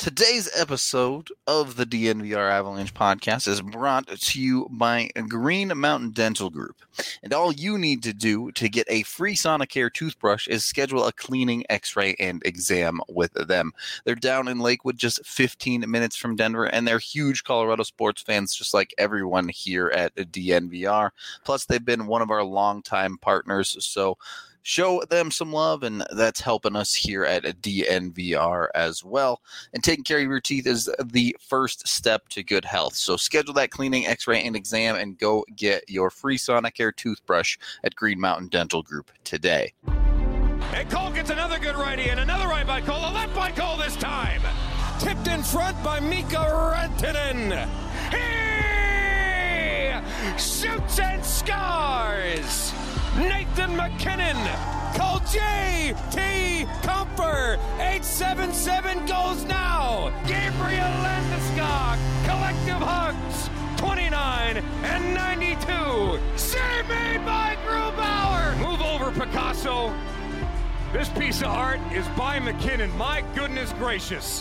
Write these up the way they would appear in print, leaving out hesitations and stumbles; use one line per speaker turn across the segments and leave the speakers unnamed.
Today's episode of the DNVR Avalanche podcast is brought to you by Green Mountain Dental Group. And all you need to do to get a free Sonicare toothbrush is schedule a cleaning, x-ray, and exam with them. They're down in Lakewood, just 15 minutes from Denver, and they're huge Colorado sports fans, just like everyone here at DNVR. Plus, they've been one of our longtime partners, so show them some love, and that's helping us here at DNVR as well. And taking care of your teeth is the first step to good health. So schedule that cleaning, x-ray, and exam, and go get your free Sonicare toothbrush at Green Mountain Dental Group today.
And Cole gets another good righty, and another right by Cole, a left by Cole this time. Tipped in front by Mika Rantanen. He shoots and scores. Nathan McKinnon, call J.T. Comfer, 877 goes now. Gabriel Landeskog, collective hugs, 29 and 92. Save made by Grubauer. Move over, Picasso. This piece of art is by McKinnon. My goodness gracious.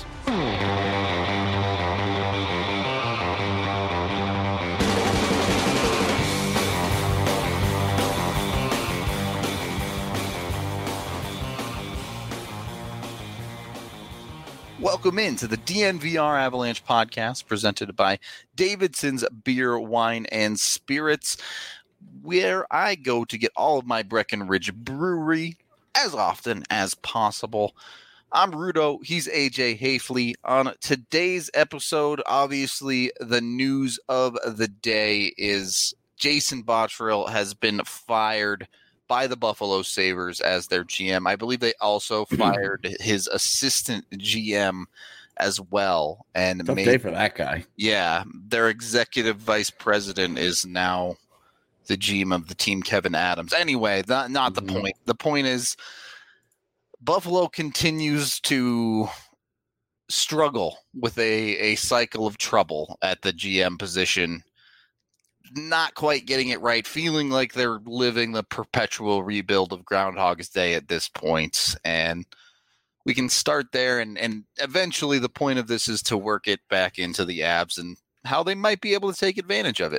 Welcome into the DNVR Avalanche podcast presented by Davidson's Beer, Wine, and Spirits, where I go to get all of my Breckenridge Brewery as often as possible. I'm Rudo. He's AJ Hafley. On today's episode, obviously, the news of the day is Jason Botterill has been fired by the Buffalo Sabres as their GM. I believe they also fired his assistant GM as well. And
tough day for that guy.
Yeah, their executive vice president is now the GM of the team, Kevin Adams. Anyway, not the point. The point is Buffalo continues to struggle with a cycle of trouble at the GM position. Not quite getting it right, feeling like they're living the perpetual rebuild of Groundhog's Day at this point. And we can start there, and eventually the point of this is to work it back into the Avs and how they might be able to take advantage of it.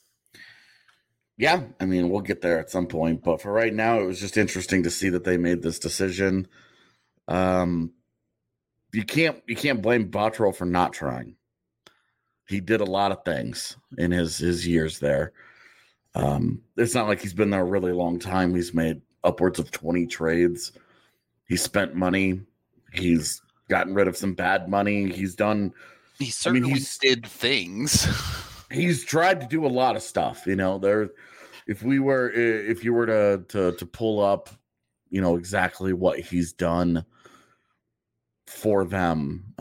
Yeah, I mean, we'll get there at some point, but for right now, it was just interesting to see that they made this decision. You can't blame Botterill for not trying. He did a lot of things in his years there. It's not like he's been there a really long time. He's made upwards of 20 trades. He spent money. He's gotten rid of some bad money. He's done.
He certainly did things.
He's tried to do a lot of stuff. You know, if you were to pull up, you know, exactly what he's done for them,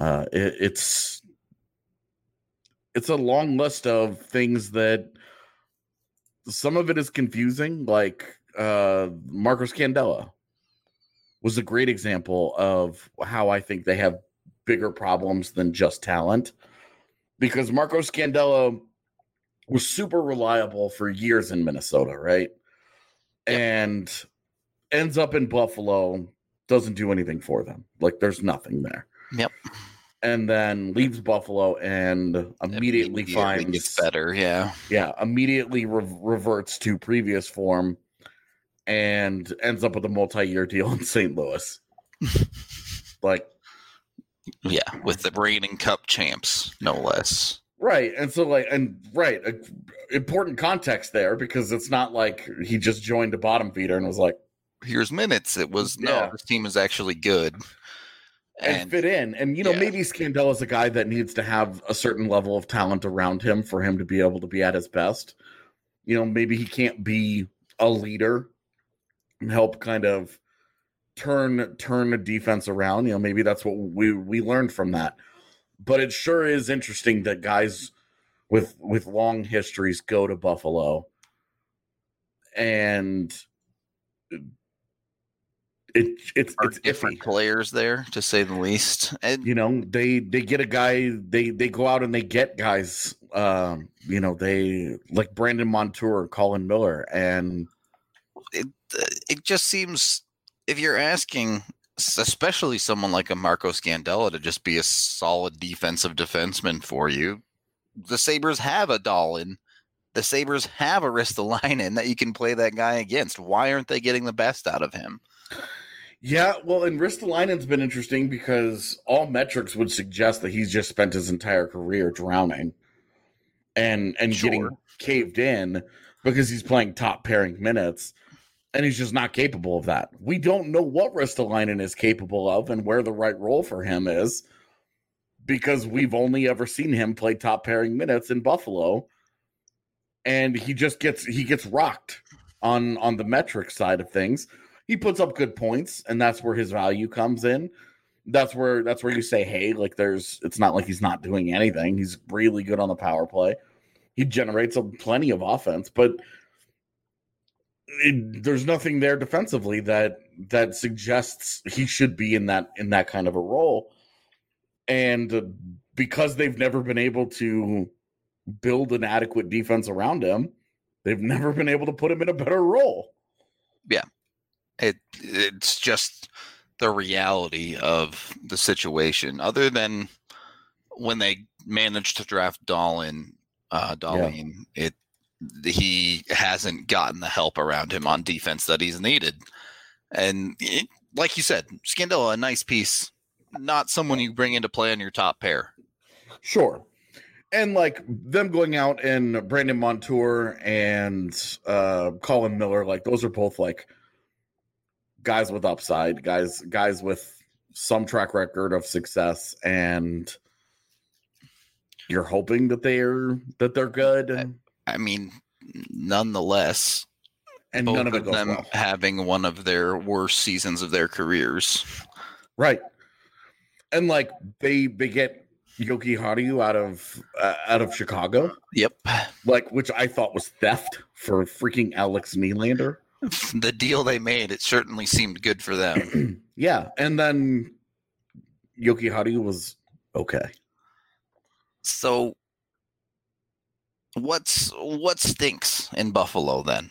it's a long list of things that some of it is confusing, like Marcos Candela was a great example of how I think they have bigger problems than just talent, because Marcos Candela was super reliable for years in Minnesota, right? Yep. And ends up in Buffalo, doesn't do anything for them. Like, there's nothing there.
Yep.
And then leaves Buffalo and immediately finds
gets better. Yeah.
Immediately reverts to previous form and ends up with a multi-year deal in St. Louis.
With the reigning Cup champs, no less.
Right. And so important context there, because it's not like he just joined a bottom feeder and was like,
here's minutes. It was, no, this team is actually good.
And fit in. And, maybe Scandella is a guy that needs to have a certain level of talent around him for him to be able to be at his best. Maybe he can't be a leader and help kind of turn the defense around. Maybe that's what we learned from that. But it sure is interesting that guys with long histories go to Buffalo, and it's
different players there, to say the least. And
they get a guy, they go out and they get guys, they like Brandon Montour, Colin Miller, and
it just seems, if you're asking especially someone like a Marco Scandella to just be a solid defensive defenseman for you. The Sabres have a Dahlin. The Sabres have a Ristolainen that you can play that guy against. Why aren't they getting the best out of him?
Yeah, well, and Ristolainen's been interesting because all metrics would suggest that he's just spent his entire career drowning and
Sure.
getting caved in because he's playing top pairing minutes, and he's just not capable of that. We don't know what Ristolainen is capable of and where the right role for him is because we've only ever seen him play top pairing minutes in Buffalo, and he gets rocked on the metric side of things. He puts up good points, and that's where his value comes in. That's where you say, hey, like it's not like he's not doing anything. He's really good on the power play. He generates plenty of offense, but there's nothing there defensively that suggests he should be in that kind of a role. And because they've never been able to build an adequate defense around him, they've never been able to put him in a better role.
Yeah. It's just the reality of the situation. Other than when they managed to draft Dahlin, he hasn't gotten the help around him on defense that he's needed. And like you said, Scandella, a nice piece, not someone you bring into play on your top pair.
Sure. And like them going out and Brandon Montour and Colin Miller, like those are both like guys with upside, guys with some track record of success, and you're hoping that they're good.
I mean, nonetheless,
And
both
none of it
of
goes
them
well.
having one of their worst seasons of their careers.
Right. And like they get Yoki Haru out of Chicago.
Yep.
Like, which I thought was theft for freaking Alex Nylander.
The deal they made, it certainly seemed good for them.
Yeah. And then Yoki Haru was okay.
So what stinks in Buffalo then?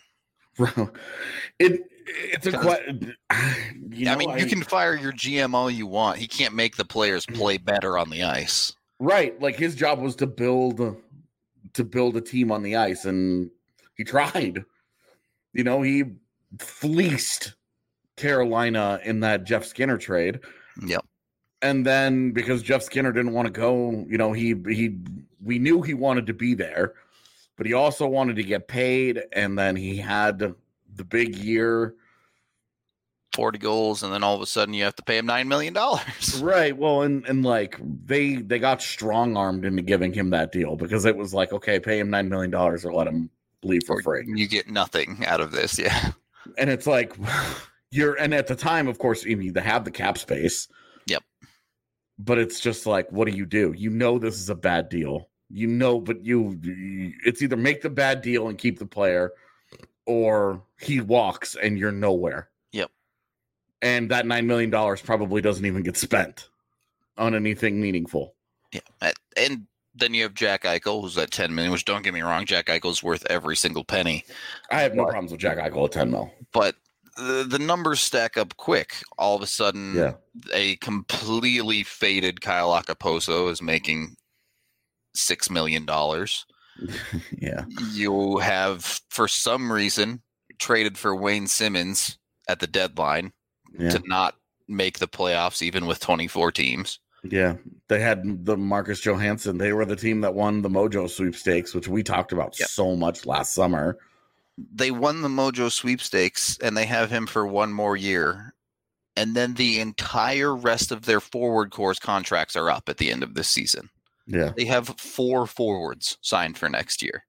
It's a question.
You can fire your GM all you want. He can't make the players play better on the ice.
Right. Like his job was to build a team on the ice, and he tried. He fleeced Carolina in that Jeff Skinner trade.
Yep.
And then because Jeff Skinner didn't want to go, we knew he wanted to be there, but he also wanted to get paid. And then he had the big year,
40 goals, and then all of a sudden you have to pay him $9 million.
Right. Well, and like they got strong armed into giving him that deal because it was like, okay, pay him $9 million or let him leave for free.
You get nothing out of this. Yeah.
And it's like and at the time, of course, they have the cap space.
Yep.
But it's just like, what do? This is a bad deal. But it's either make the bad deal and keep the player, or he walks and you're nowhere.
Yep.
And that $9 million probably doesn't even get spent on anything meaningful.
Yeah. And then you have Jack Eichel, who's at $10 million, which, don't get me wrong, Jack Eichel's worth every single penny.
I have no problems with Jack Eichel at $10 million.
But the numbers stack up quick. All of a sudden, a completely faded Kyle Okposo is making $6 million.
Yeah.
You have, for some reason, traded for Wayne Simmons at the deadline to not make the playoffs, even with 24 teams.
Yeah. They had the Marcus Johansson. They were the team that won the Mojo sweepstakes, which we talked about so much last summer.
They won the Mojo sweepstakes, and they have him for one more year. And then the entire rest of their forward core's contracts are up at the end of this season.
Yeah.
They have 4 forwards signed for next year.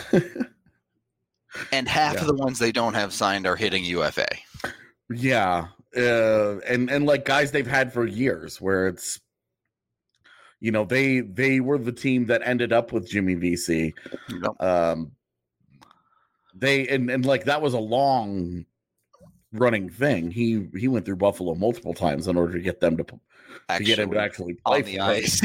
And half of the ones they don't have signed are hitting UFA.
Yeah. And like guys they've had for years, where it's, they were the team that ended up with Jimmy VC.
Yep.
Like that was a long running thing. He went through Buffalo multiple times in order to get them to get him to actually play
on the ice.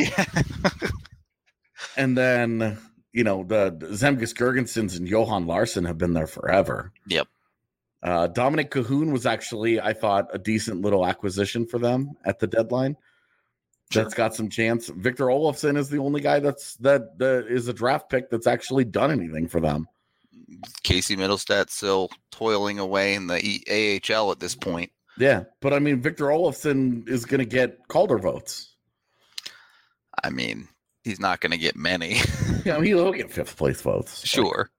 And then the Zemgus Girgensons and Johan Larsson have been there forever.
Yep.
Dominic Cahoon was actually, I thought, a decent little acquisition for them at the deadline.
Sure.
That's got some chance. Victor Olofsson is the only guy that is a draft pick that's actually done anything for them.
Casey Middlestat still toiling away in the AHL at this point.
Yeah, but I mean, Victor Olofsson is going to get Calder votes.
I mean, he's not going to get many.
Yeah, he'll get fifth place votes.
Sure.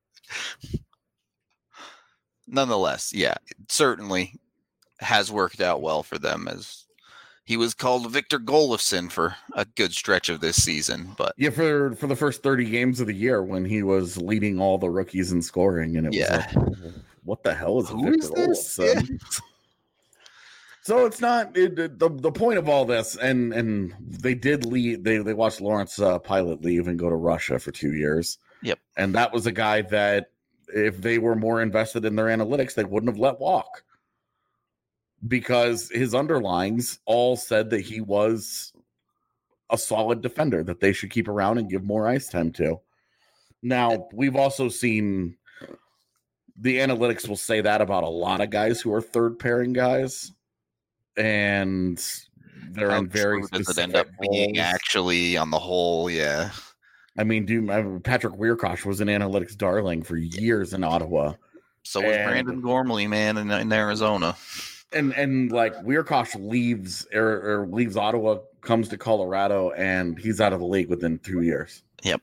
Nonetheless, yeah, it certainly has worked out well for them, as he was called Victor Golofsson for a good stretch of this season. But
yeah, for the first 30 games of the year when he was leading all the rookies in scoring, and it was like, what the hell is
Who
Victor
is this?
Olofsson? Yeah. So it's not the point of all this, and they did leave. They watched Lawrence Pilot leave and go to Russia for 2 years.
Yep,
and that was a guy that if they were more invested in their analytics, they wouldn't have let walk, because his underlines all said that he was a solid defender that they should keep around and give more ice time to. Now, we've also seen the analytics will say that about a lot of guys who are third pairing guys, and they're in very specific
does it end up being
roles.
Actually on the whole, yeah.
I mean, Patrick Weirkosh was an analytics darling for years in Ottawa.
So was Brandon Gormley, man, in Arizona.
And like Weirkosh leaves or leaves Ottawa, comes to Colorado, and he's out of the league within 2 years.
Yep.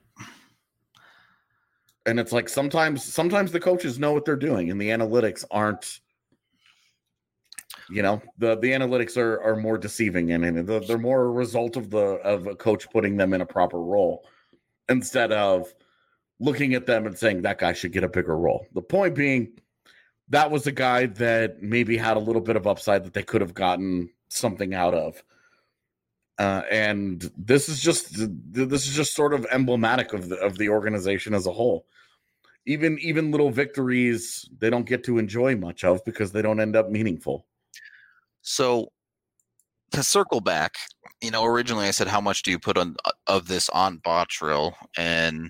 And it's like sometimes the coaches know what they're doing, and the analytics aren't. You know, the analytics are more deceiving, and they're more a result of a coach putting them in a proper role, instead of looking at them and saying that guy should get a bigger role. The point being, that was a guy that maybe had a little bit of upside that they could have gotten something out of. And this is just sort of emblematic of the organization as a whole. Even little victories they don't get to enjoy much of because they don't end up meaningful.
So to circle back, originally I said, how much do you put of this on Bottrill? And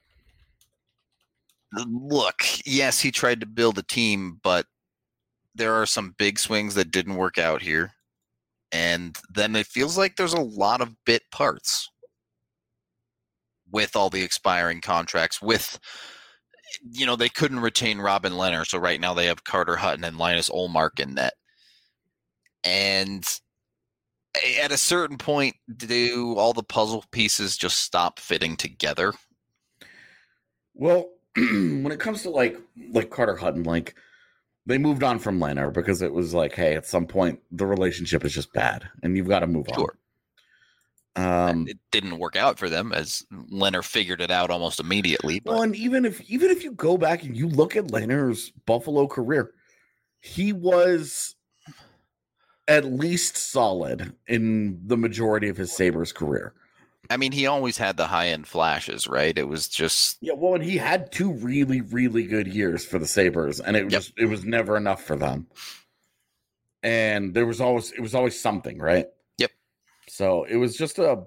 look, yes, he tried to build a team, but there are some big swings that didn't work out here. And then it feels like there's a lot of bit parts with all the expiring contracts. With, they couldn't retain Robin Lehner, so right now they have Carter Hutton and Linus Ullmark in net. And at a certain point, do all the puzzle pieces just stop fitting together?
Well, when it comes to like Carter Hutton, like they moved on from Lehner because it was like, hey, at some point the relationship is just bad and you've got to move on.
It didn't work out for them, as Lehner figured it out almost immediately. But.
Well, and even if you go back and you look at Lehner's Buffalo career, he was at least solid in the majority of his Sabres career.
I mean, he always had the high-end flashes, right? It was just...
Yeah, well, and he had 2 really, really good years for the Sabres, and it was never enough for them. And it was always something, right?
Yep.
So it was just a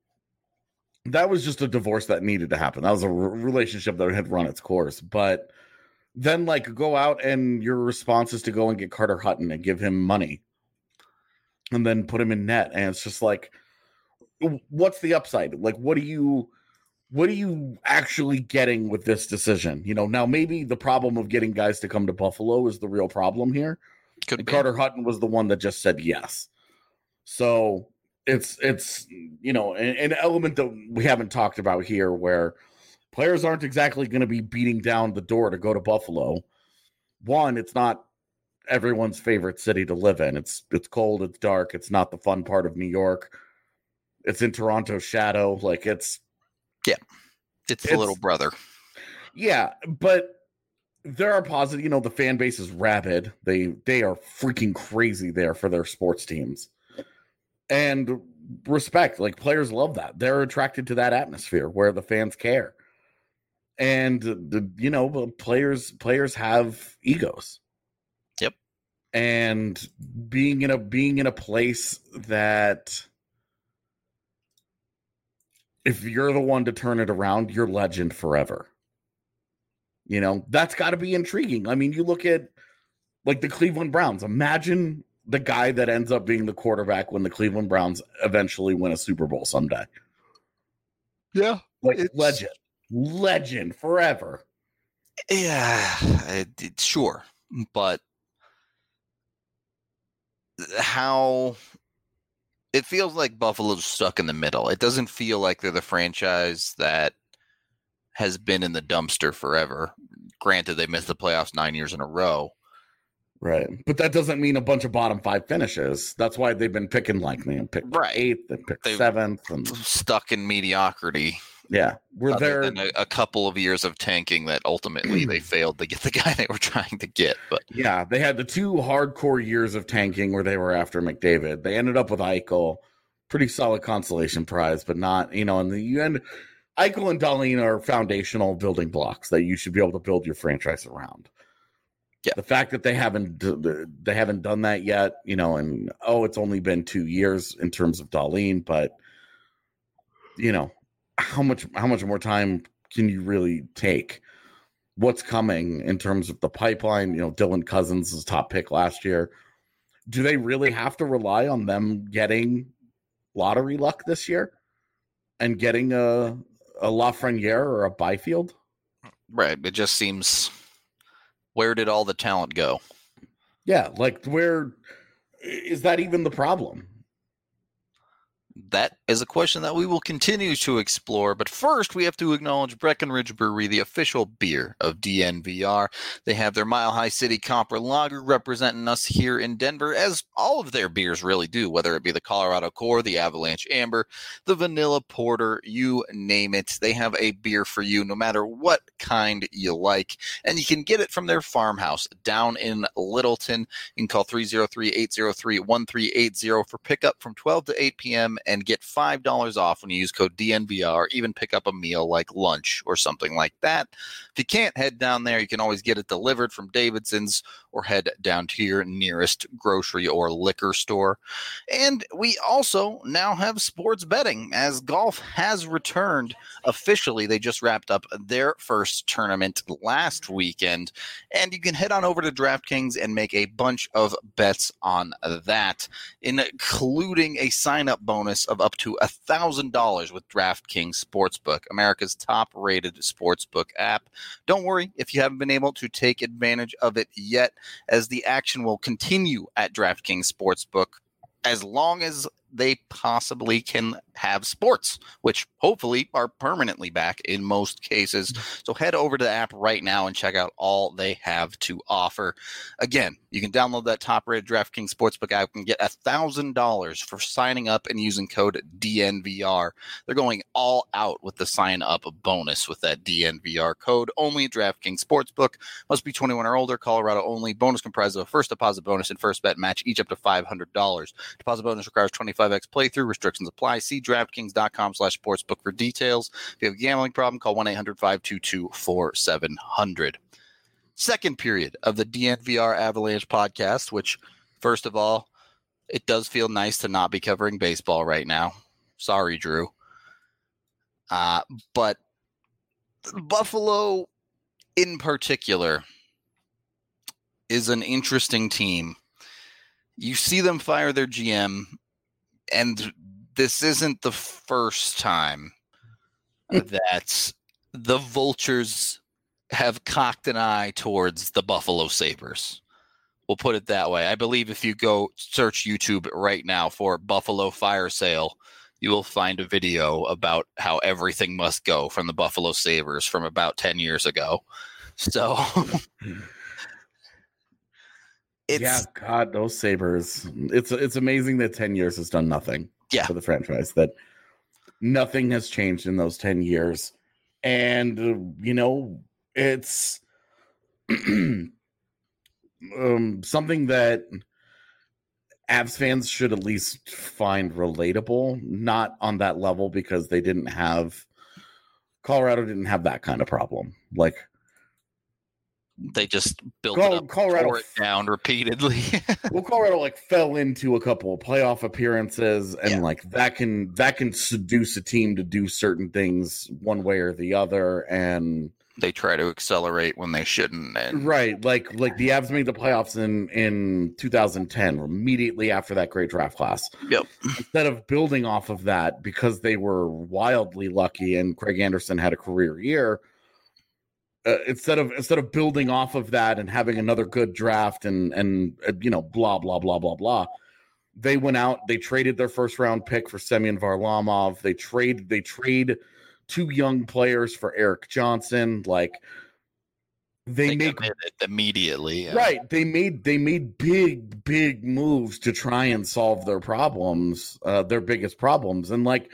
divorce that needed to happen. That was a relationship that had run its course. But then, like, go out and your response is to go and get Carter Hutton and give him money. And then put him in net, and it's just like, what's the upside? Like, what are you actually getting with this decision? Now maybe the problem of getting guys to come to Buffalo is the real problem here. Carter Hutton was the one that just said yes. So it's an element that we haven't talked about here, where players aren't exactly going to be beating down the door to go to Buffalo. One, it's not everyone's favorite city to live in. It's cold, it's dark, it's not the fun part of New York. It's in Toronto's shadow. Like it's
the little brother.
Yeah, but there are positive, the fan base is rabid. They are freaking crazy there for their sports teams. And respect, like players love that. They're attracted to that atmosphere where the fans care. And players have egos. And being in a place that if you're the one to turn it around, you're legend forever. That's got to be intriguing. I mean, you look at Like the Cleveland Browns. Imagine the guy that ends up being the quarterback when the Cleveland Browns eventually win a Super Bowl someday.
Yeah.
Like legend forever.
Yeah, sure. But how it feels like Buffalo's stuck in the middle. It doesn't feel like they're the franchise that has been in the dumpster forever. Granted, they missed the playoffs 9 years in a row.
Right. But that doesn't mean a bunch of bottom 5 finishes. That's why they've been picking pick
right.
8th and pick 7th. And
stuck in mediocrity.
Yeah. We're there.
A couple of years of tanking that ultimately they failed to get the guy they were trying to get. But
yeah, they had the 2 hardcore years of tanking where they were after McDavid. They ended up with Eichel. Pretty solid consolation prize, but not, in the end, Eichel and Dahlin are foundational building blocks that you should be able to build your franchise around. Yeah. The fact that they haven't done that yet, and it's only been 2 years in terms of Dahlin, but how much more time can you really take? What's coming in terms of the pipeline? Dylan Cousins was top pick last year. Do they really have to rely on them getting lottery luck this year and getting a Lafreniere or a Byfield?
Right. It just seems, where did all the talent go?
Yeah. Like, where is that even the problem?
That is a question that we will continue to explore, but first we have to acknowledge Breckenridge Brewery, the official beer of DNVR. They have their Mile High City Copper Lager representing us here in Denver, as all of their beers really do, whether it be the Colorado Core, the Avalanche Amber, the Vanilla Porter, you name it. They have a beer for you no matter what kind you like, and you can get it from their farmhouse down in Littleton. You can call 303-803-1380 for pickup from 12 to 8 p.m. and get $5 off when you use code DNVR, or even pick up a meal like lunch or something like that. If you can't head down there, you can always get it delivered from Davidson's or head down to your nearest grocery or liquor store. And we also now have sports betting, as golf has returned officially. They just wrapped up their first tournament last weekend, and you can head on over to DraftKings and make a bunch of bets on that, including a sign-up bonus of up to $1,000 with DraftKings Sportsbook, America's top-rated sportsbook app. Don't worry if you haven't been able to take advantage of it yet, as the action will continue at DraftKings Sportsbook as long as they possibly can have sports, which hopefully are permanently back in most cases. So head over to the app right now and check out all they have to offer. Again, you can download that top-rated DraftKings Sportsbook app and get $1,000 for signing up and using code DNVR. They're going all out with the sign-up bonus with that DNVR code. Only at DraftKings Sportsbook. Must be 21 or older. Colorado only. Bonus comprised of a first deposit bonus and first bet match, each up to $500. Deposit bonus requires 25x playthrough. Restrictions apply. See DraftKings.com/sportsbook for details. If you have a gambling problem, call 1-800-522-4700. Second period of the DNVR Avalanche podcast, which, first of all, it does feel nice to not be covering baseball right now. Sorry, Drew. But Buffalo in particular is an interesting team. You see them fire their GM, and this isn't the first time that the Vultures have cocked an eye towards the Buffalo Sabres. We'll put it that way. I believe if you go search YouTube right now for Buffalo fire sale, you will find a video about how everything must go from the Buffalo Sabres from about 10 years ago. So
God, those Sabres. It's amazing that 10 years has done nothing for the franchise, that nothing has changed in those 10 years. And, it's something that Avs fans should at least find relatable, not on that level, because Colorado didn't have that kind of problem. Like,
they just built Colorado it down repeatedly.
Well, Colorado fell into a couple of playoff appearances, and that can seduce a team to do certain things one way or the other. And
They try to accelerate when they shouldn't. And
Right, like the Avs made the playoffs in 2010, immediately after that great draft class.
Yep.
Instead of building off of that, because they were wildly lucky and Craig Anderson had a career year, instead of building off of that and having another good draft and blah blah blah blah blah, they went out. They traded their first round pick for Semyon Varlamov. They trade 2 young players for Eric Johnson. Like they make
committed immediately. Yeah.
Right. They made big moves to try and solve their problems, their biggest problems. And like,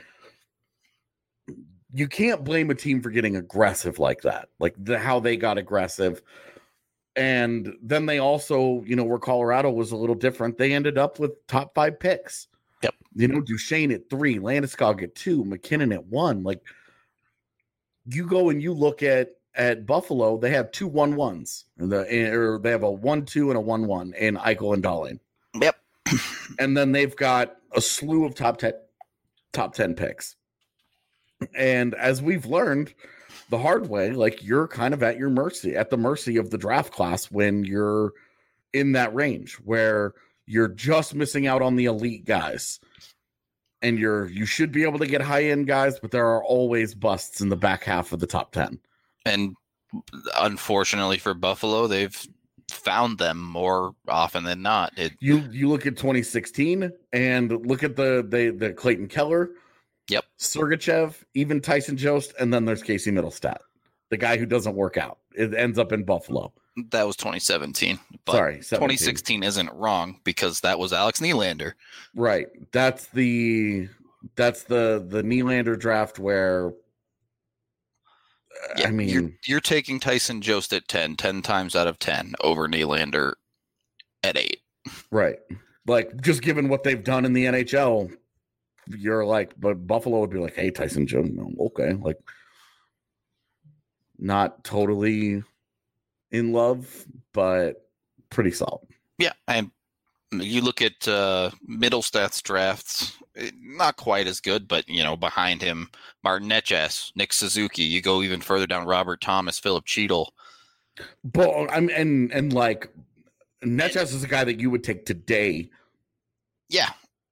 you can't blame a team for getting aggressive like that, like how they got aggressive. And then they also, where Colorado was a little different, they ended up with top 5 picks.
Yep.
Duchesne at 3, Landeskog at 2, McKinnon at 1. Like, you go and you look at Buffalo, they have 2 1-1s, or they have a 1-2 and a 1-1 in Eichel and Dahlin.
Yep.
And then they've got a slew of top 10 picks. And as we've learned the hard way, like, you're kind of at the mercy of the draft class when you're in that range where you're just missing out on the elite guys. And you should be able to get high-end guys, but there are always busts in the back half of the top 10. And
unfortunately for Buffalo, they've found them more often than not.
You look at 2016 and look at the Clayton Keller,
yep,
Sergachev, even Tyson Jost, and then there's Casey Middlestat, the guy who doesn't work out. It ends up in Buffalo.
That was 2017. But
Sorry,
2016 isn't wrong because that was Alex Nylander.
Right. That's the Nylander draft where
I mean, you're taking Tyson Jost at 10 times out of 10 over Nylander at 8.
Right. Like, just given what they've done in the NHL, you're like, but Buffalo would be like, hey, Tyson Jost, no, okay, like, not totally in love, but pretty solid.
Yeah, and you look at Middlestat's drafts, not quite as good, but behind him, Martin Necas, Nick Suzuki. You go even further down, Robert Thomas, Philip Cheadle.
But and like, Necas is a guy that you would take today.
Yeah,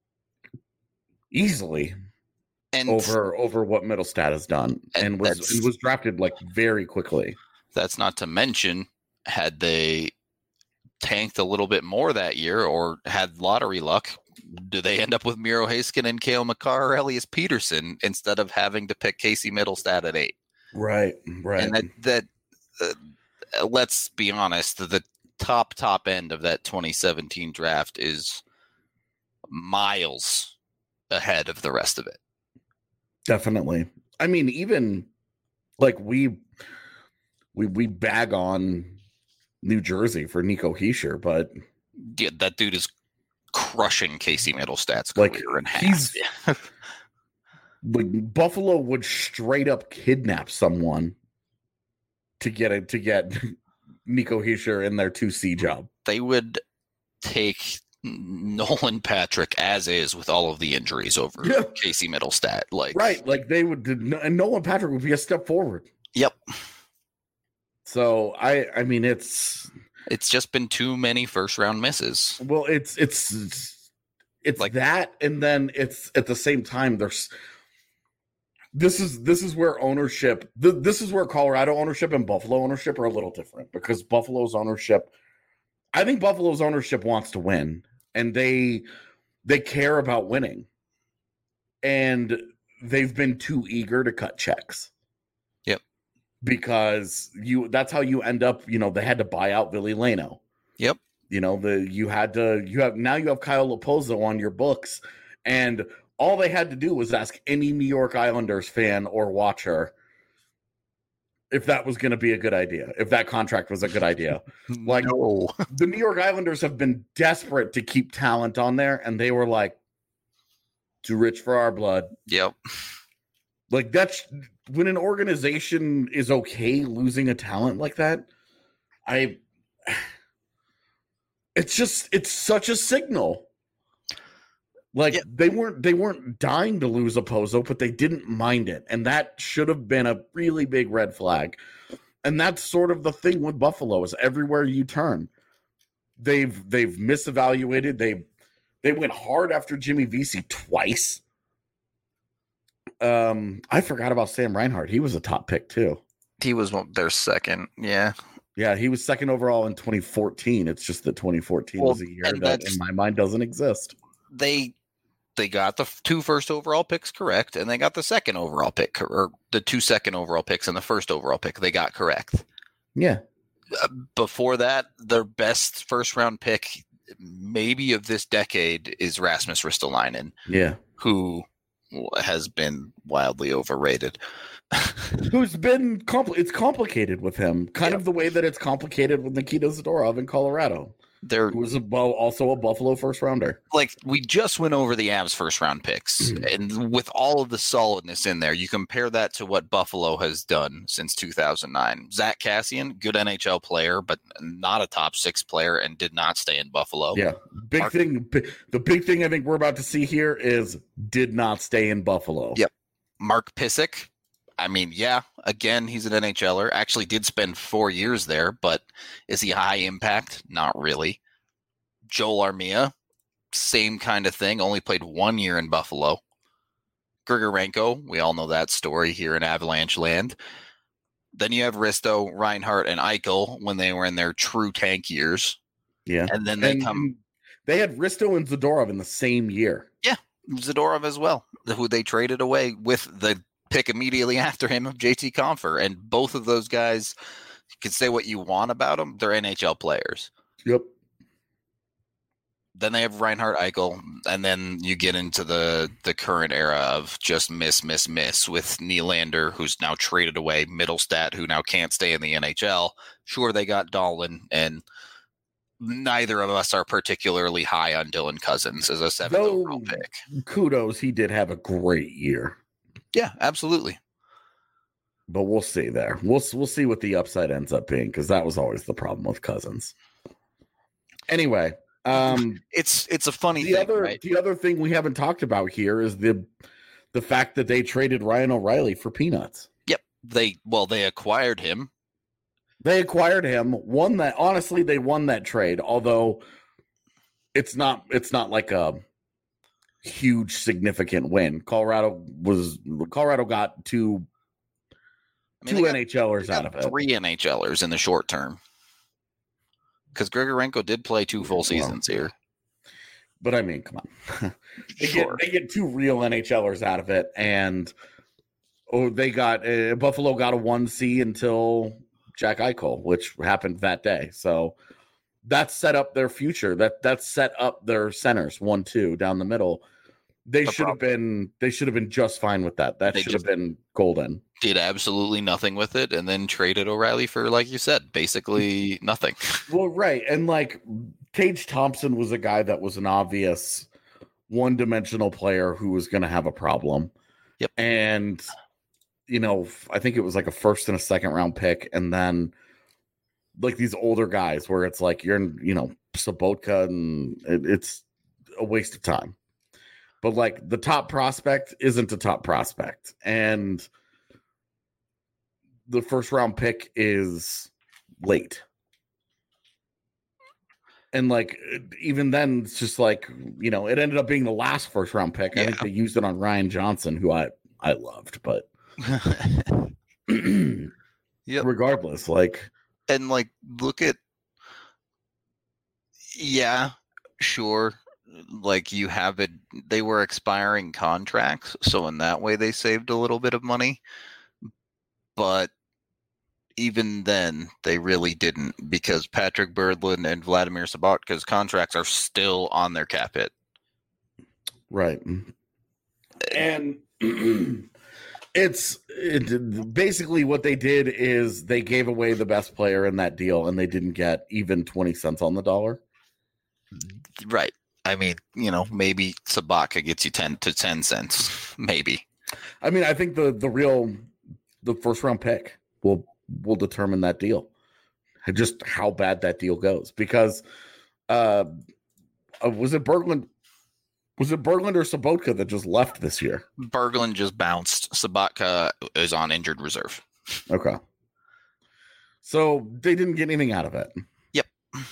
easily. And over what Middlestat has done, and was drafted like very quickly.
That's not to mention, had they tanked a little bit more that year or had lottery luck, do they end up with Miro Heiskanen and Cale Makar or Elias Peterson instead of having to pick Casey Middlestat at 8?
Right.
And that let's be honest, the top end of that 2017 draft is miles ahead of the rest of it.
Definitely. I mean, even like we bag on New Jersey for Nico Hischier, but
yeah, that dude is crushing Casey Middlestat's career in half.
Like, Buffalo would straight up kidnap someone to get Nico Hischier in their 2C job.
They would take Nolan Patrick as is with all of the injuries over Casey Middlestat.
Like they would, and Nolan Patrick would be a step forward.
Yep.
So I mean, it's
just been too many first round misses.
Well, it's like that, and then it's at the same time this is where ownership, this is where Colorado ownership and Buffalo ownership are a little different, because I think Buffalo's ownership wants to win, and they care about winning, and they've been too eager to cut checks.
Yep.
Because that's how you end up, they had to buy out Ville Laino.
Yep.
You have Kyle Lepozo on your books, and all they had to do was ask any New York Islanders fan or watcher if that was going to be a good idea, if that contract was a good idea. Like,
no.
The New York Islanders have been desperate to keep talent on there, and they were like, too rich for our blood.
Yep.
Like, that's when an organization is okay losing a talent like that. It's such a signal. Like, they weren't dying to lose a Pozo, but they didn't mind it. And that should have been a really big red flag. And that's sort of the thing with Buffalo is everywhere you turn, they've misevaluated. They went hard after Jimmy Vesey twice. I forgot about Sam Reinhart. He was a top pick too.
He was their second. Yeah.
Yeah, he was second overall in 2014. It's just that 2014 was a year that in my mind doesn't exist.
They got the 2 first overall picks correct, and they got the second overall pick, or the 2 second overall picks and the first overall pick they got correct.
Yeah.
Before that, their best first round pick maybe of this decade is Rasmus Ristolainen.
Yeah.
Who has been wildly overrated.
Who's been it's complicated with him, kind of the way that it's complicated with Nikita Zadorov in Colorado. Who was also a Buffalo first rounder.
Like, we just went over the Avs first round picks, and with all of the solidness in there, you compare that to what Buffalo has done since 2009. Zach Kassian, good NHL player, but not a top 6 player, and did not stay in Buffalo.
Yeah, the big thing I think we're about to see here is did not stay in Buffalo.
Yep. Mark Pysyk, I mean, yeah, again, he's an NHLer. Actually did spend 4 years there, but is he high impact? Not really. Joel Armia, same kind of thing, only played 1 year in Buffalo. Grigorenko, we all know that story here in Avalanche land. Then you have Risto, Reinhart, and Eichel when they were in their true tank years.
Yeah.
And then
they had Risto and Zadorov in the same year.
Yeah, Zadorov as well, who they traded away with the pick immediately after him of JT Compher. And both of those guys, you can say what you want about them, they're NHL players.
Yep.
Then they have Reinhart, Eichel, and then you get into the current era of just miss with Nylander, who's now traded away, Middlestat, who now can't stay in the NHL. Sure, they got Dahlin, and neither of us are particularly high on Dylan Cousins as a 7th overall pick.
Kudos, he did have a great year.
Yeah, absolutely.
But we'll see there. We'll see what the upside ends up being, because that was always the problem with Cousins. Anyway,
it's a funny thing. Right?
The other thing we haven't talked about here is the fact that they traded Ryan O'Reilly for peanuts.
Yep. They acquired him.
They acquired him. Honestly, they won that trade, although it's not like a huge significant win. Colorado got two NHLers out of it.
3 NHLers in the short term. Because Grigorenko did play 2 full seasons here.
But I mean, come on. They get 2 real NHLers out of it, and Buffalo got a 1C until Jack Eichel, which happened that day. So that set up their future. That set up their centers 1-2 down the middle. They should have been just fine with that. That should have been golden.
Did absolutely nothing with it, and then traded O'Reilly for, like you said, basically nothing.
Well, right. And like Tage Thompson was a guy that was an obvious one-dimensional player who was going to have a problem.
Yep.
And I think it was like a first and a second round pick, and then like these older guys where it's like you're Sobotka, and it's a waste of time. But like the top prospect isn't a top prospect, and the first round pick is late. And like even then, it's just like it ended up being the last first round pick. Yeah. I think they used it on Ryan Johnson, who I loved, but
yep.
Regardless, look
at sure. Like you have it, they were expiring contracts, so in that way they saved a little bit of money. But even then, they really didn't, because Patrick Berglund and Vladimir Sobotka's contracts are still on their cap hit.
Right. And basically what they did is they gave away the best player in that deal, and they didn't get even 20 cents on the dollar.
Right. I mean, maybe Sobotka gets you 10 cents, maybe.
I mean, I think the first round pick will determine that deal, just how bad that deal goes. Because was it Berglund or Sobotka that just left this year?
Berglund just bounced. Sobotka is on injured reserve.
Okay. So they didn't get anything out of it.
Yep.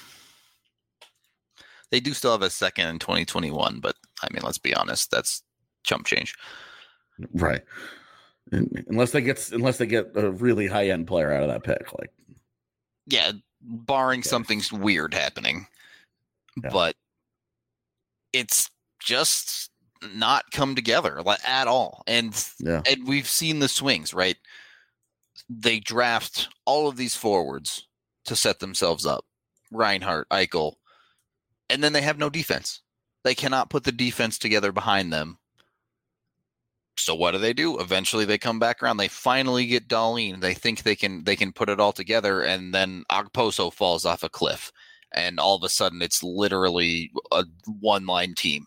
They do still have a second in 2021, but I mean, let's be honest, that's chump change.
Right. Unless they get a really high end player out of that pick, like
yeah, barring something weird happening, but it's just not come together at all. And we've seen the swings, right? They draft all of these forwards to set themselves up, Reinhart, Eichel, and then they have no defense. They cannot put the defense together behind them. So what do? Eventually they come back around. They finally get Dahlin. They think they can put it all together, and then Okposo falls off a cliff. And all of a sudden it's literally a one-line team.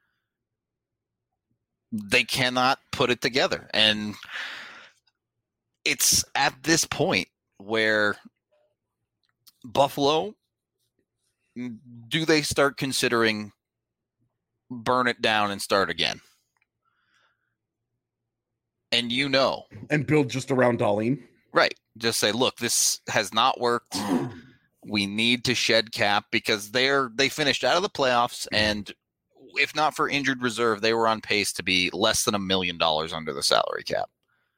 They cannot put it together. And it's at this point where Buffalo, do they start considering burn it down and start again? And and
build just around Dahlin.
Right. Just say, look, this has not worked. We need to shed cap because they finished out of the playoffs, and if not for injured reserve, they were on pace to be less than $1 million under the salary cap.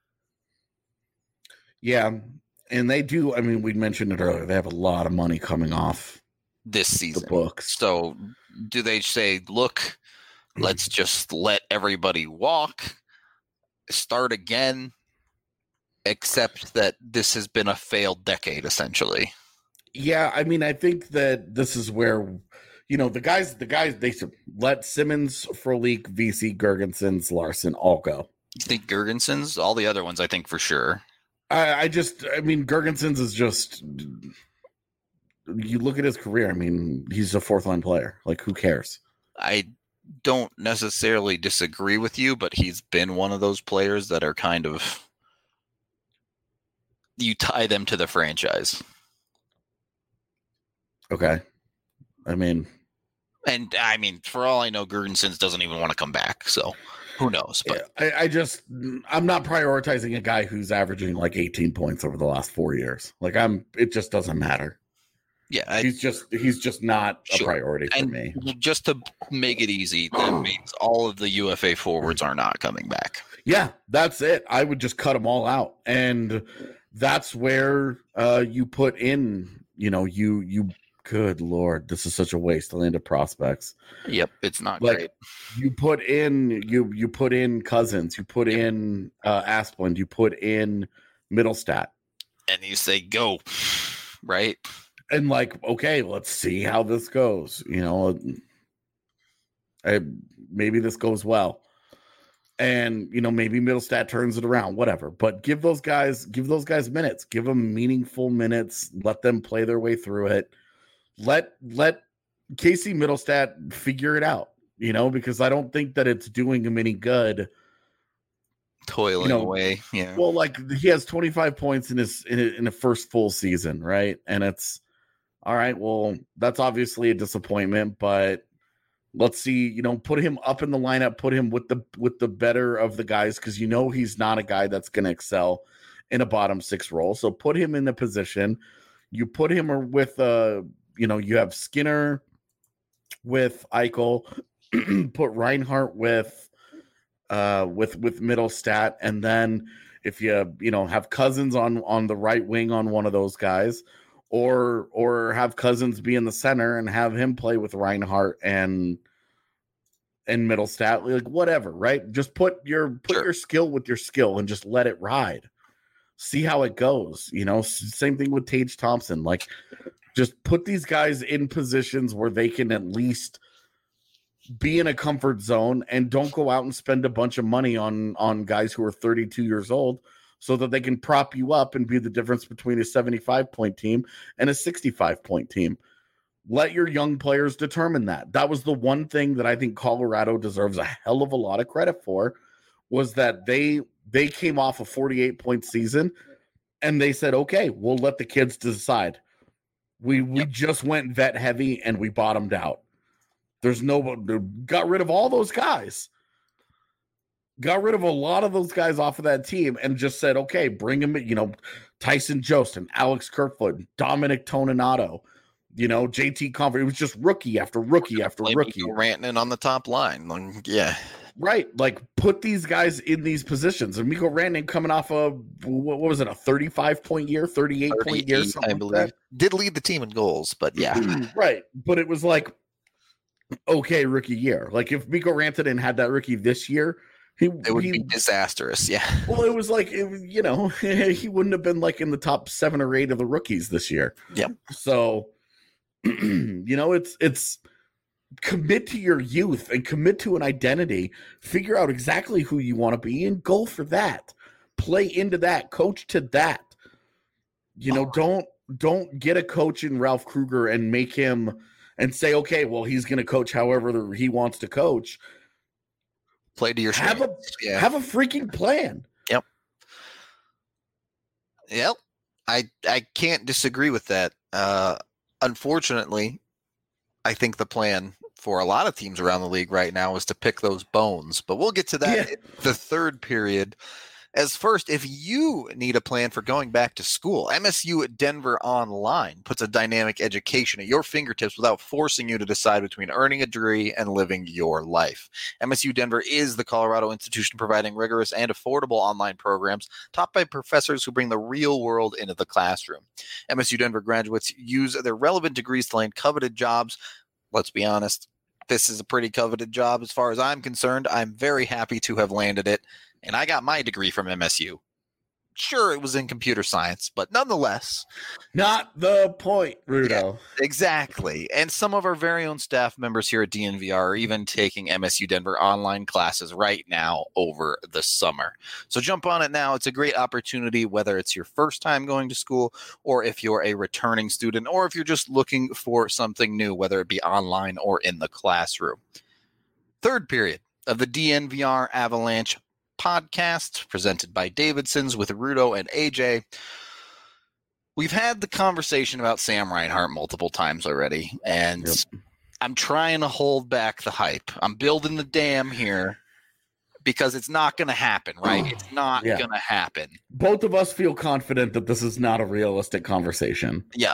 Yeah, and they do. I mean, we mentioned it earlier. They have a lot of money coming off
this season.
The books.
So do they say, look, let's just let everybody walk, start again, except that this has been a failed decade, essentially?
Yeah, I mean, I think that this is where, the guys, they should let Simmons, Frolik, VC, Girgensons, Larson all go.
You think Girgensons? All the other ones, I think for sure.
I mean, Girgensons is just, you look at his career, I mean, he's a fourth line player. Like, who cares?
I don't necessarily disagree with you, but he's been one of those players that are kind of, you tie them to the franchise.
Okay. And
for all I know, Girgensons doesn't even want to come back. So who knows? But
I'm not prioritizing a guy who's averaging like 18 points over the last 4 years. Like it just doesn't matter.
Yeah.
He's just not a priority for me.
Just to make it easy, that means all of the UFA forwards are not coming back.
Yeah, that's it. I would just cut them all out. And that's where you put in, you good Lord, this is such a wasteland of prospects.
Yep, it's not great.
You put in you put in Cousins, you put in Asplund, you put in Middlestat, and
you say go, right?
And okay, let's see how this goes. Maybe this goes well, and maybe Middlestat turns it around, whatever. But give those guys minutes, give them meaningful minutes, let them play their way through it. Let Casey Middlestat figure it out, because I don't think that it's doing him any good.
Toiling away, yeah.
Well, he has 25 points in the first full season, right? And it's all right. Well, that's obviously a disappointment, but let's see. Put him up in the lineup, put him with the better of the guys, because he's not a guy that's going to excel in a bottom six role. So put him in the position. You put him with you have Skinner with Eichel, put Reinhart with Middlestat, and then if you have Cousins on the right wing on one of those guys, or have Cousins be in the center and have him play with Reinhart and Middlestat, whatever, right? Just put your skill with your skill and just let it ride. See how it goes. Same thing with Tage Thompson. Just put these guys in positions where they can at least be in a comfort zone, and don't go out and spend a bunch of money on guys who are 32 years old, so that they can prop you up and be the difference between a 75-point team and a 65-point team. Let your young players determine that. That was the one thing that I think Colorado deserves a hell of a lot of credit for, was that they came off a 48-point season and they said, okay, we'll let the kids decide. We just went vet heavy and we bottomed out. Got rid of all those guys. Got rid of a lot of those guys off of that team and just said, okay, bring them, Tyson Jost and Alex Kerfoot, Dominic Toninato, JT Convert. It was just rookie after rookie after rookie.
Rantanen on the top line. Yeah.
Right. Like, put these guys in these positions. And Mikko Rantanen coming off of, what was it, a 35-point year, 38-point year?
I believe. Did lead the team in goals, but yeah.
Right. But it was like, okay, rookie year. Like, if Mikko Rantanen had that rookie this year, it would be
disastrous. Yeah.
Well, it was like, he wouldn't have been like in the top 7 or 8 of the rookies this year.
Yep.
So, it's commit to your youth and commit to an identity. Figure out exactly who you want to be and go for that. Play into that. Coach to that. Don't get a coach in Ralph Kruger and make him and say, okay, well, he's going to coach however he wants to coach.
Play to your
have a freaking plan.
Yep. I can't disagree with that. Unfortunately, I think the plan for a lot of teams around the league right now is to pick those bones, but we'll get to that in the third period. As first, if you need a plan for going back to school, MSU Denver Online puts a dynamic education at your fingertips without forcing you to decide between earning a degree and living your life. MSU Denver is the Colorado institution providing rigorous and affordable online programs taught by professors who bring the real world into the classroom. MSU Denver graduates use their relevant degrees to land coveted jobs. Let's be honest, this is a pretty coveted job as far as I'm concerned. I'm very happy to have landed it. And I got my degree from MSU. Sure, it was in computer science, but nonetheless.
Not the point, Rudo.
Yeah, exactly. And some of our very own staff members here at DNVR are even taking MSU Denver online classes right now over the summer. So jump on it now. It's a great opportunity, whether it's your first time going to school or if you're a returning student or if you're just looking for something new, whether it be online or in the classroom. Third period of the DNVR Avalanche podcast presented by Davidson's with Rudo and AJ. We've had the conversation about Sam Reinhart multiple times already, and I'm trying to hold back the hype. I'm building the dam here because it's not going to happen, right? It's not going to happen.
Both of us feel confident that this is not a realistic conversation.
Yeah.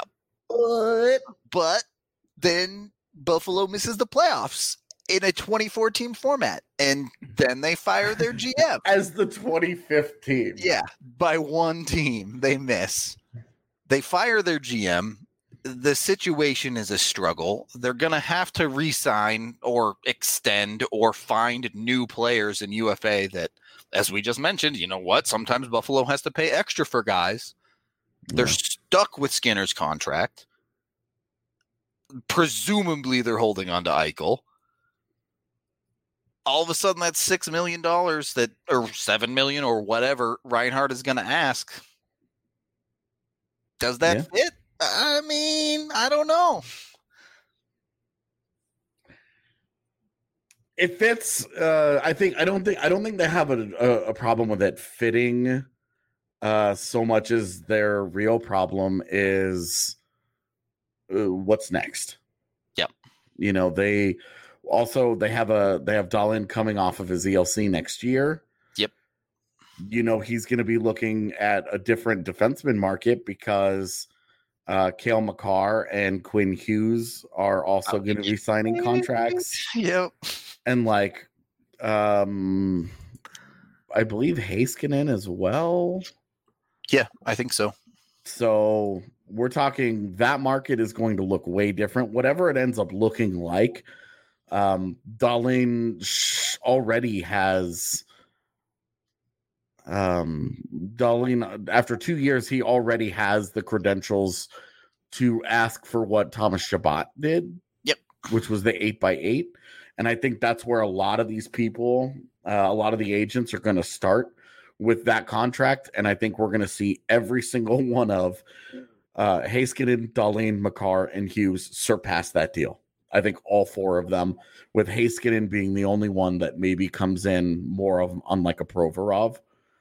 But then Buffalo misses the playoffs in a 2014 format, and then they fire their GM
as the 25th team.
Yeah, by one team they miss. They fire their GM. The situation is a struggle. They're going to have to re-sign or extend or find new players in UFA that, as we just mentioned, you know what? Sometimes Buffalo has to pay extra for guys. They're stuck with Skinner's contract. Presumably they're holding on to Eichel. All of a sudden, that's $6 million or $7 million or whatever Reinhart is going to ask. Does that fit? I mean, I don't know.
It fits. I don't think they have a problem with it fitting. So much as their real problem is what's next.
Yep.
They have Dahlin coming off of his ELC next year.
Yep.
He's going to be looking at a different defenseman market because Cale Makar and Quinn Hughes are also going to be signing contracts.
Yep.
And I believe Heiskanen as well.
Yeah, I think so.
So we're talking that market is going to look way different. Whatever it ends up looking like. Dahlin already has Dahlin after 2 years, he already has the credentials to ask for what Thomas Chabot did.
Yep.
Which was the 8x8. And I think that's where a lot of these people, a lot of the agents are going to start with that contract. And I think we're going to see every single one of Heiskanen, Dahlin, Makar, and Hughes surpass that deal. I think all 4 of them, with Heiskanen being the only one that maybe comes in more of unlike a Provorov.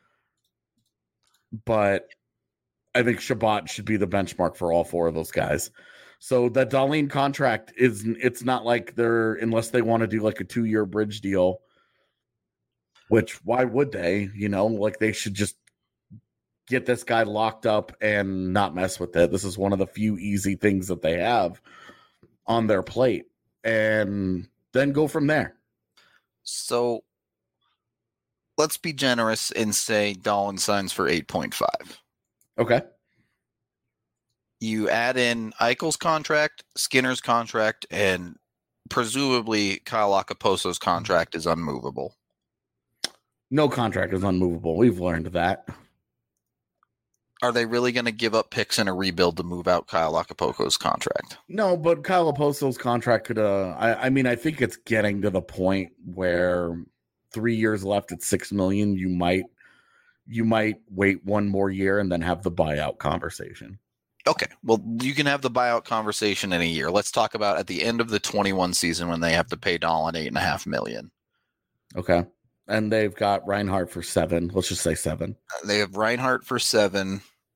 But I think Chabot should be the benchmark for all 4 of those guys. So that Dahlin contract it's not like unless they want to do like a 2-year bridge deal, which why would they? They should just get this guy locked up and not mess with it. This is one of the few easy things that they have on their plate, and then go from there.
So let's be generous and say Dahlin signs for 8.5.
Okay.
You add in Eichel's contract, Skinner's contract, and presumably Kyle Okaposo's contract is unmovable.
No contract is unmovable. We've learned that.
Are they really going to give up picks in a rebuild to move out Kyle Okaposo's contract?
No, but Kyle Oposo's contract could. I mean, I think it's getting to the point where 3 years left at $6 million. You might wait one more year and then have the buyout conversation.
Okay, well, you can have the buyout conversation in a year. Let's talk about at the end of the 21 season when they have to pay Dahlin $8.5 million.
Okay, and they've got Reinhart for $7 million. Let's just say $7 million.
They have Reinhart for $7 million.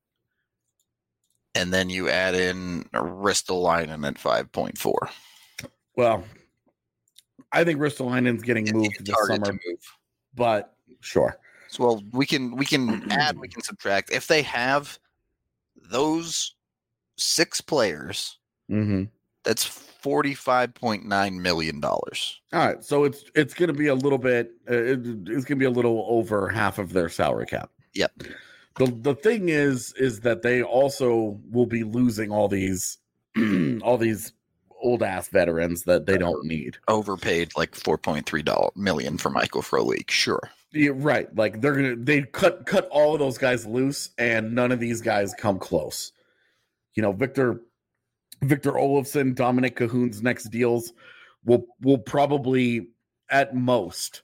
And then you add in Ristolainen at 5.4.
Well, I think Ristolainen's getting moved this summer, but sure.
So, well, we can add, we can subtract. If they have those 6 players, that's $45.9 million. All
right, so it's going to be a little bit. It's going to be a little over half of their salary cap.
Yep.
The thing is that they also will be losing all these old ass veterans that they don't need.
Overpaid like $4.3 million for Michael Frolik. Sure.
Yeah, right. Like they cut all of those guys loose, and none of these guys come close. You know, Victor Olofsson, Dominic Cahoon's next deals will probably at most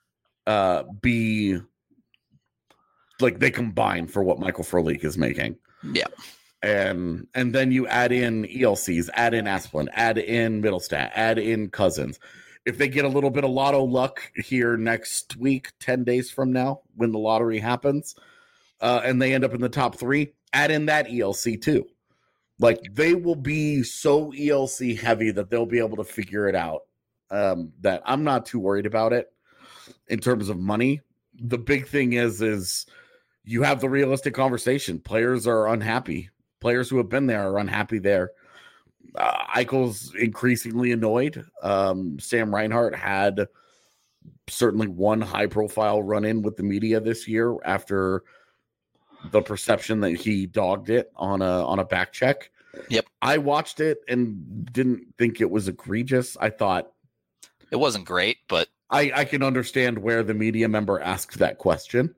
be like they combine for what Michael Frolik is making.
Yeah.
And then you add in ELCs, add in Asplund, add in Middlestat, add in Cousins. If they get a little bit of lotto luck here next week, 10 days from now, when the lottery happens, and they end up in the top 3, add in that ELC too. Like, they will be so ELC heavy that they'll be able to figure it out. That I'm not too worried about it in terms of money. The big thing is you have the realistic conversation. Players are unhappy. Players who have been there are unhappy there. Eichel's increasingly annoyed. Sam Reinhart had certainly one high-profile run-in with the media this year after the perception that he dogged it on a back check.
Yep.
I watched it and didn't think it was egregious. I thought
it wasn't great, but
I can understand where the media member asked that question.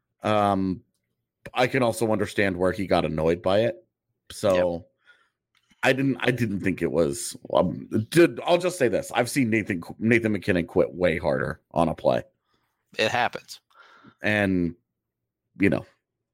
I can also understand where he got annoyed by it. So yep. I didn't think it was. I'll just say this: I've seen Nathan MacKinnon quit way harder on a play.
It happens,
and you know.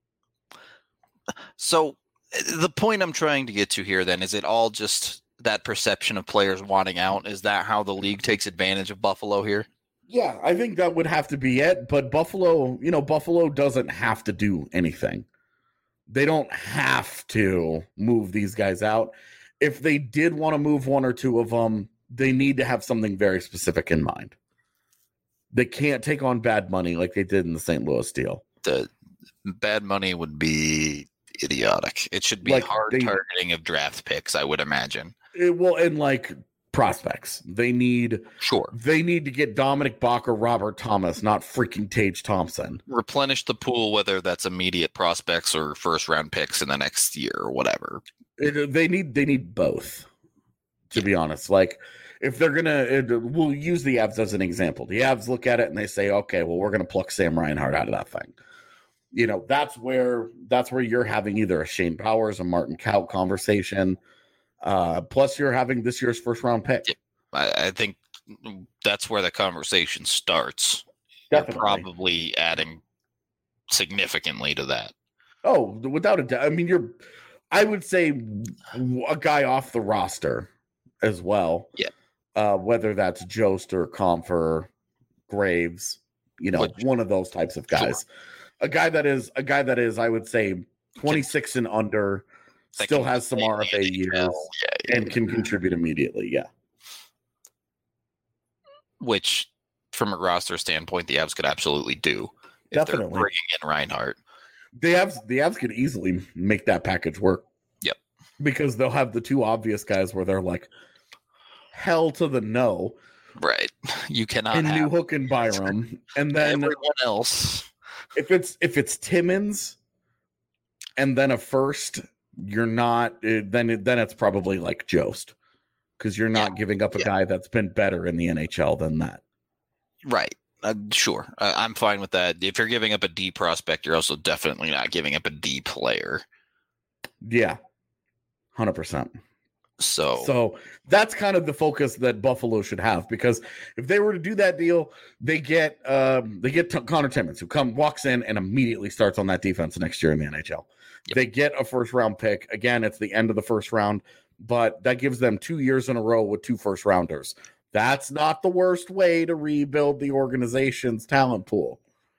So the point I'm trying to get to here, then, is it all just that perception of players wanting out? Is that how the league takes advantage of Buffalo here?
Yeah, I think that would have to be it. But Buffalo doesn't have to do anything. They don't have to move these guys out. If they did want to move one or two of them, they need to have something very specific in mind. They can't take on bad money like they did in the St. Louis deal.
The bad money would be idiotic. It should be like targeting of draft picks, I would imagine.
And like prospects. They need to get Dominic Bach or Robert Thomas, not freaking Tage Thompson.
Replenish the pool, whether that's immediate prospects or first round picks in the next year or whatever.
They need both, to be honest. Like, if they're we'll use the Avs as an example. The Avs look at it and they say, okay, well, we're gonna pluck Sam Reinhart out of that thing. You know, that's where you're having either a Shane Powers, a Martin Kaut conversation. Plus, you're having this year's first round pick.
I think that's where the conversation starts.
Definitely.
You're probably adding significantly to that.
Oh, without a doubt. I mean, I would say a guy off the roster as well.
Yeah.
Whether that's Jost or Comfer, Graves, one of those types of guys. Sure. A guy that is, I would say, 26 and under. Still has some RFA years and can contribute immediately. Yeah.
Which, from a roster standpoint, the Avs could absolutely do. If
Definitely.
they're bringing in Reinhart.
The Avs could easily make that package work.
Yep.
Because they'll have the two obvious guys where they're like, hell to the no.
Right. You cannot
and
have
Newhook and Byram. And then
everyone else.
If it's Timmins and then a first, you're not then it's probably like Jost. Because you're not giving up a guy that's been better in the NHL than that.
Right. Sure. I'm fine with that. If you're giving up a D prospect, you're also definitely not giving up a D player.
Yeah. 100%.
So
that's kind of the focus that Buffalo should have, because if they were to do that deal, they get Connor Timmins, who walks in and immediately starts on that defense next year in the NHL. Yep. They get a first round pick. Again, it's the end of the first round, but that gives them 2 years in a row with 2 first rounders. That's not the worst way to rebuild the organization's talent pool.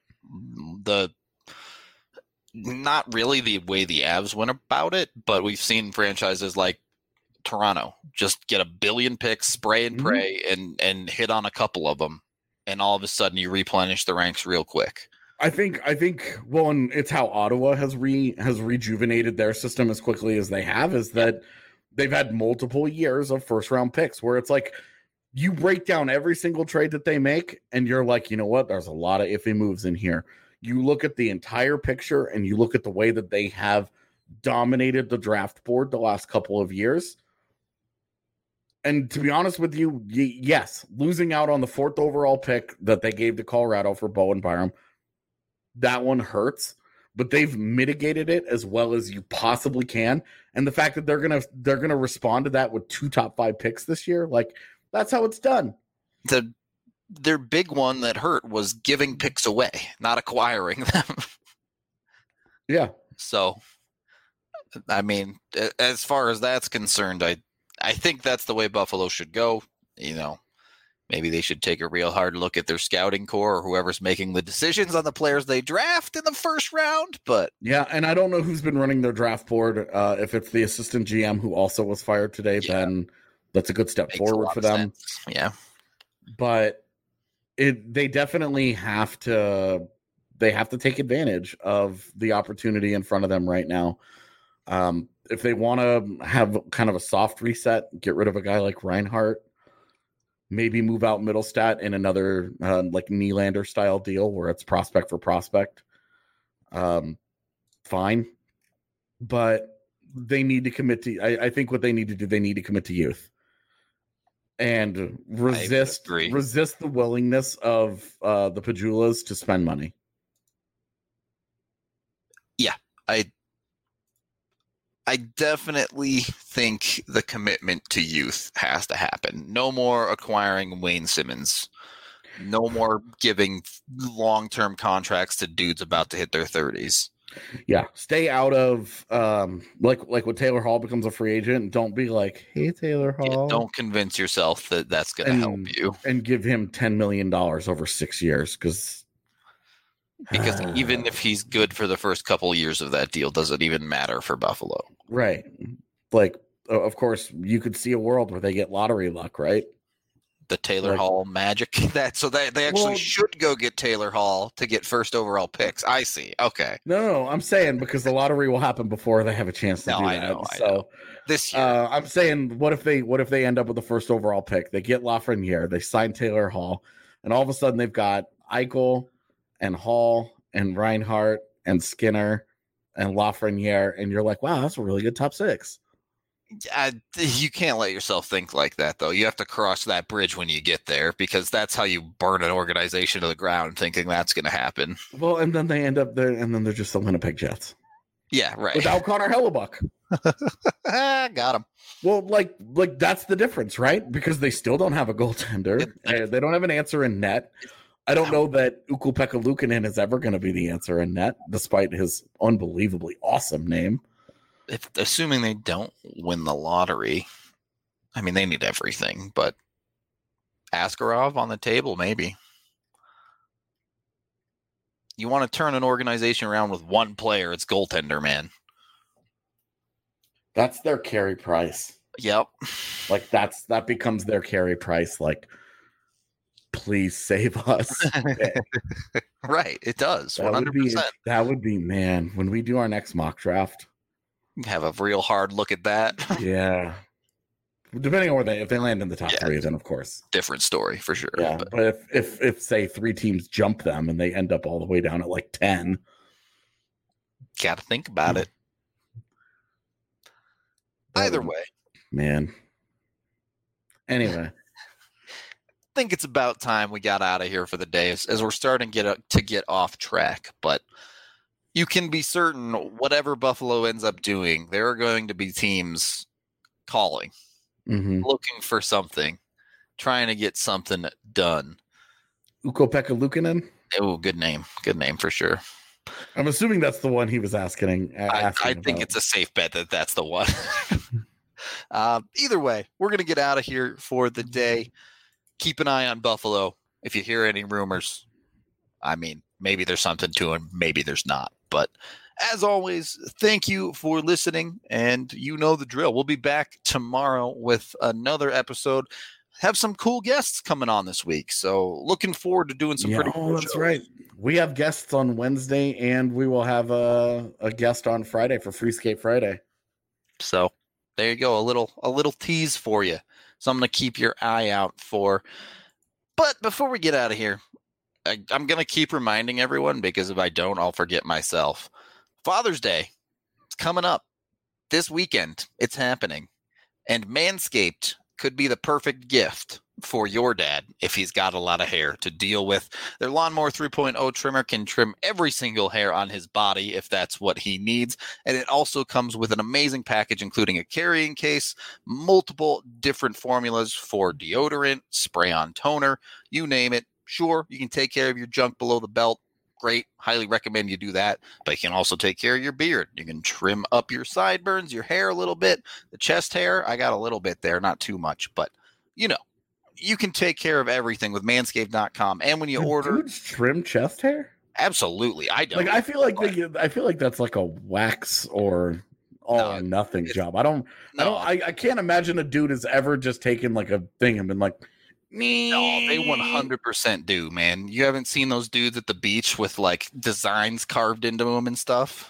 Not really the way the Avs went about it, but we've seen franchises like Toronto just get 1 billion picks, spray and pray, and hit on a couple of them, and all of a sudden you replenish the ranks real quick.
I think well, and it's how Ottawa has rejuvenated their system as quickly as they have, is that they've had multiple years of first round picks where it's like you break down every single trade that they make and you're like, you know what, there's a lot of iffy moves in here. You look at the entire picture and you look at the way that they have dominated the draft board the last couple of years. And to be honest with you, yes, losing out on the 4th overall pick that they gave to Colorado for Bowen Byram, that one hurts, but they've mitigated it as well as you possibly can. And the fact that they're gonna respond to that with 2 top 5 picks this year, like, that's how it's done.
Their big one that hurt was giving picks away, not acquiring them.
Yeah.
So, I mean, as far as that's concerned, I think that's the way Buffalo should go. You know, maybe they should take a real hard look at their scouting core or whoever's making the decisions on the players they draft in the first round. But
yeah, and I don't know who's been running their draft board. If it's the assistant GM who also was fired today, then that's a good step forward for them.
Sense. Yeah.
But they definitely have to take advantage of the opportunity in front of them right now. If they want to have kind of a soft reset, get rid of a guy like Reinhart, maybe move out Middlestat in another like Nylander style deal where it's prospect for prospect. Fine. But they need to commit to, I think what they need to do, they need to commit to youth and resist the willingness of the Pajulas to spend money.
Yeah, I definitely think the commitment to youth has to happen. No more acquiring Wayne Simmons. No more giving long-term contracts to dudes about to hit their 30s.
Yeah, stay out of like when Taylor Hall becomes a free agent. Don't be like, "Hey, Taylor Hall."
Yeah, don't convince yourself that that's going to help you.
And give him $10 million over 6 years because
even if he's good for the first couple of years of that deal, doesn't even matter for Buffalo.
Right. Like, of course, you could see a world where they get lottery luck, right?
The Taylor Hall magic. They actually should go get Taylor Hall to get first overall picks. I see. Okay.
No, I'm saying because the lottery will happen before they have a chance to do that.
I know. This year,
I'm saying, what if they end up with the first overall pick? They get Lafreniere, they sign Taylor Hall, and all of a sudden they've got Eichel and Hall and Reinhart and Skinner and Lafreniere, and you're like, wow, that's a really good top 6.
You can't let yourself think like that, though. You have to cross that bridge when you get there, because that's how you burn an organization to the ground, thinking that's going to happen.
Well, and then they end up there, and then they're just the Winnipeg Jets.
Yeah, right.
Without Connor Hellebuck.
Got him.
Well, like that's the difference, right? Because they still don't have a goaltender. They don't have an answer in net. I don't know that Ukko-Pekka Luukkonen is ever going to be the answer in net, despite his unbelievably awesome name.
Assuming they don't win the lottery, I mean, they need everything, but Askarov on the table, maybe. You want to turn an organization around with one player, it's goaltender, man.
That's their carry price.
Yep.
Like that becomes their carry price. Like please save us.
Right, it does.
That
100%.
That would be, man, when we do our next mock draft.
Have a real hard look at that.
Yeah. Depending on if they land in the top 3, then of course.
Different story for sure.
Yeah, but if say 3 teams jump them and they end up all the way down at like 10.
Got to think about it. Either way.
Man. Anyway.
I think it's about time we got out of here for the day as we're starting to get off track. But you can be certain whatever Buffalo ends up doing, there are going to be teams calling, looking for something, trying to get something done.
Ukko-Pekka Luukkonen?
Oh, good name. Good name for sure.
I'm assuming that's the one he was asking
I think it's a safe bet that that's the one. Either way, we're going to get out of here for the day. Keep an eye on Buffalo. If you hear any rumors, I mean, maybe there's something to them, maybe there's not. But as always, thank you for listening, and you know the drill. We'll be back tomorrow with another episode. Have some cool guests coming on this week, so looking forward to doing some pretty cool
that's
shows.
Right. We have guests on Wednesday, and we will have a guest on Friday for Free Skate Friday.
So there you go, a little tease for you. Something to keep your eye out for. But before we get out of here, I'm going to keep reminding everyone, because if I don't, I'll forget myself. Father's Day is coming up this weekend. It's happening. And Manscaped could be the perfect gift for your dad if he's got a lot of hair to deal with. Their Lawnmower 3.0 trimmer can trim every single hair on his body if that's what he needs. And it also comes with an amazing package, including a carrying case, multiple different formulas for deodorant, spray-on toner, you name it. Sure, you can take care of your junk below the belt. Great. Highly recommend you do that. But you can also take care of your beard. You can trim up your sideburns, your hair a little bit. The chest hair, I got a little bit there, not too much. But, you know, you can take care of everything with manscaped.com. And when you order,
dudes trim chest hair?
Absolutely. I don't.
Like, I feel like that's like a wax or all or nothing job. I can't imagine a dude has ever just taken like a thing and been like,
no, they 100% do, man. You haven't seen those dudes at the beach with like designs carved into them and stuff?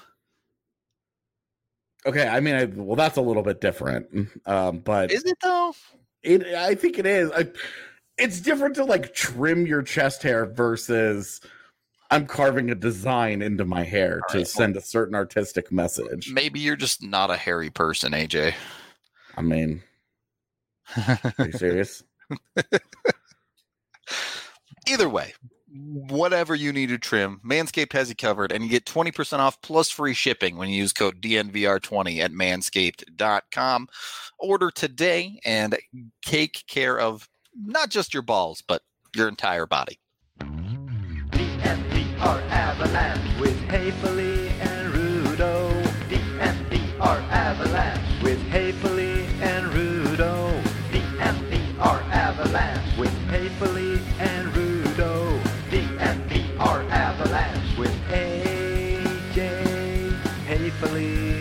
Okay, I mean, well, that's a little bit different. But
is it though?
I think it is. It's different to like trim your chest hair versus I'm carving a design into my hair to send a certain artistic message.
Maybe you're just not a hairy person, AJ.
I mean, are you serious?
Either way, whatever you need to trim, Manscaped has you covered, and you get 20% off plus free shipping when you use code DNVR20 at manscaped.com. Order today and take care of not just your balls, but your entire body.
DNVR Avalanche with Haefele and Rudo. DNVR Avalanche with Haefele and Rudo. DNVR Avalanche with Haefele and Rudo. DNVR Avalanche with AJ Haefele.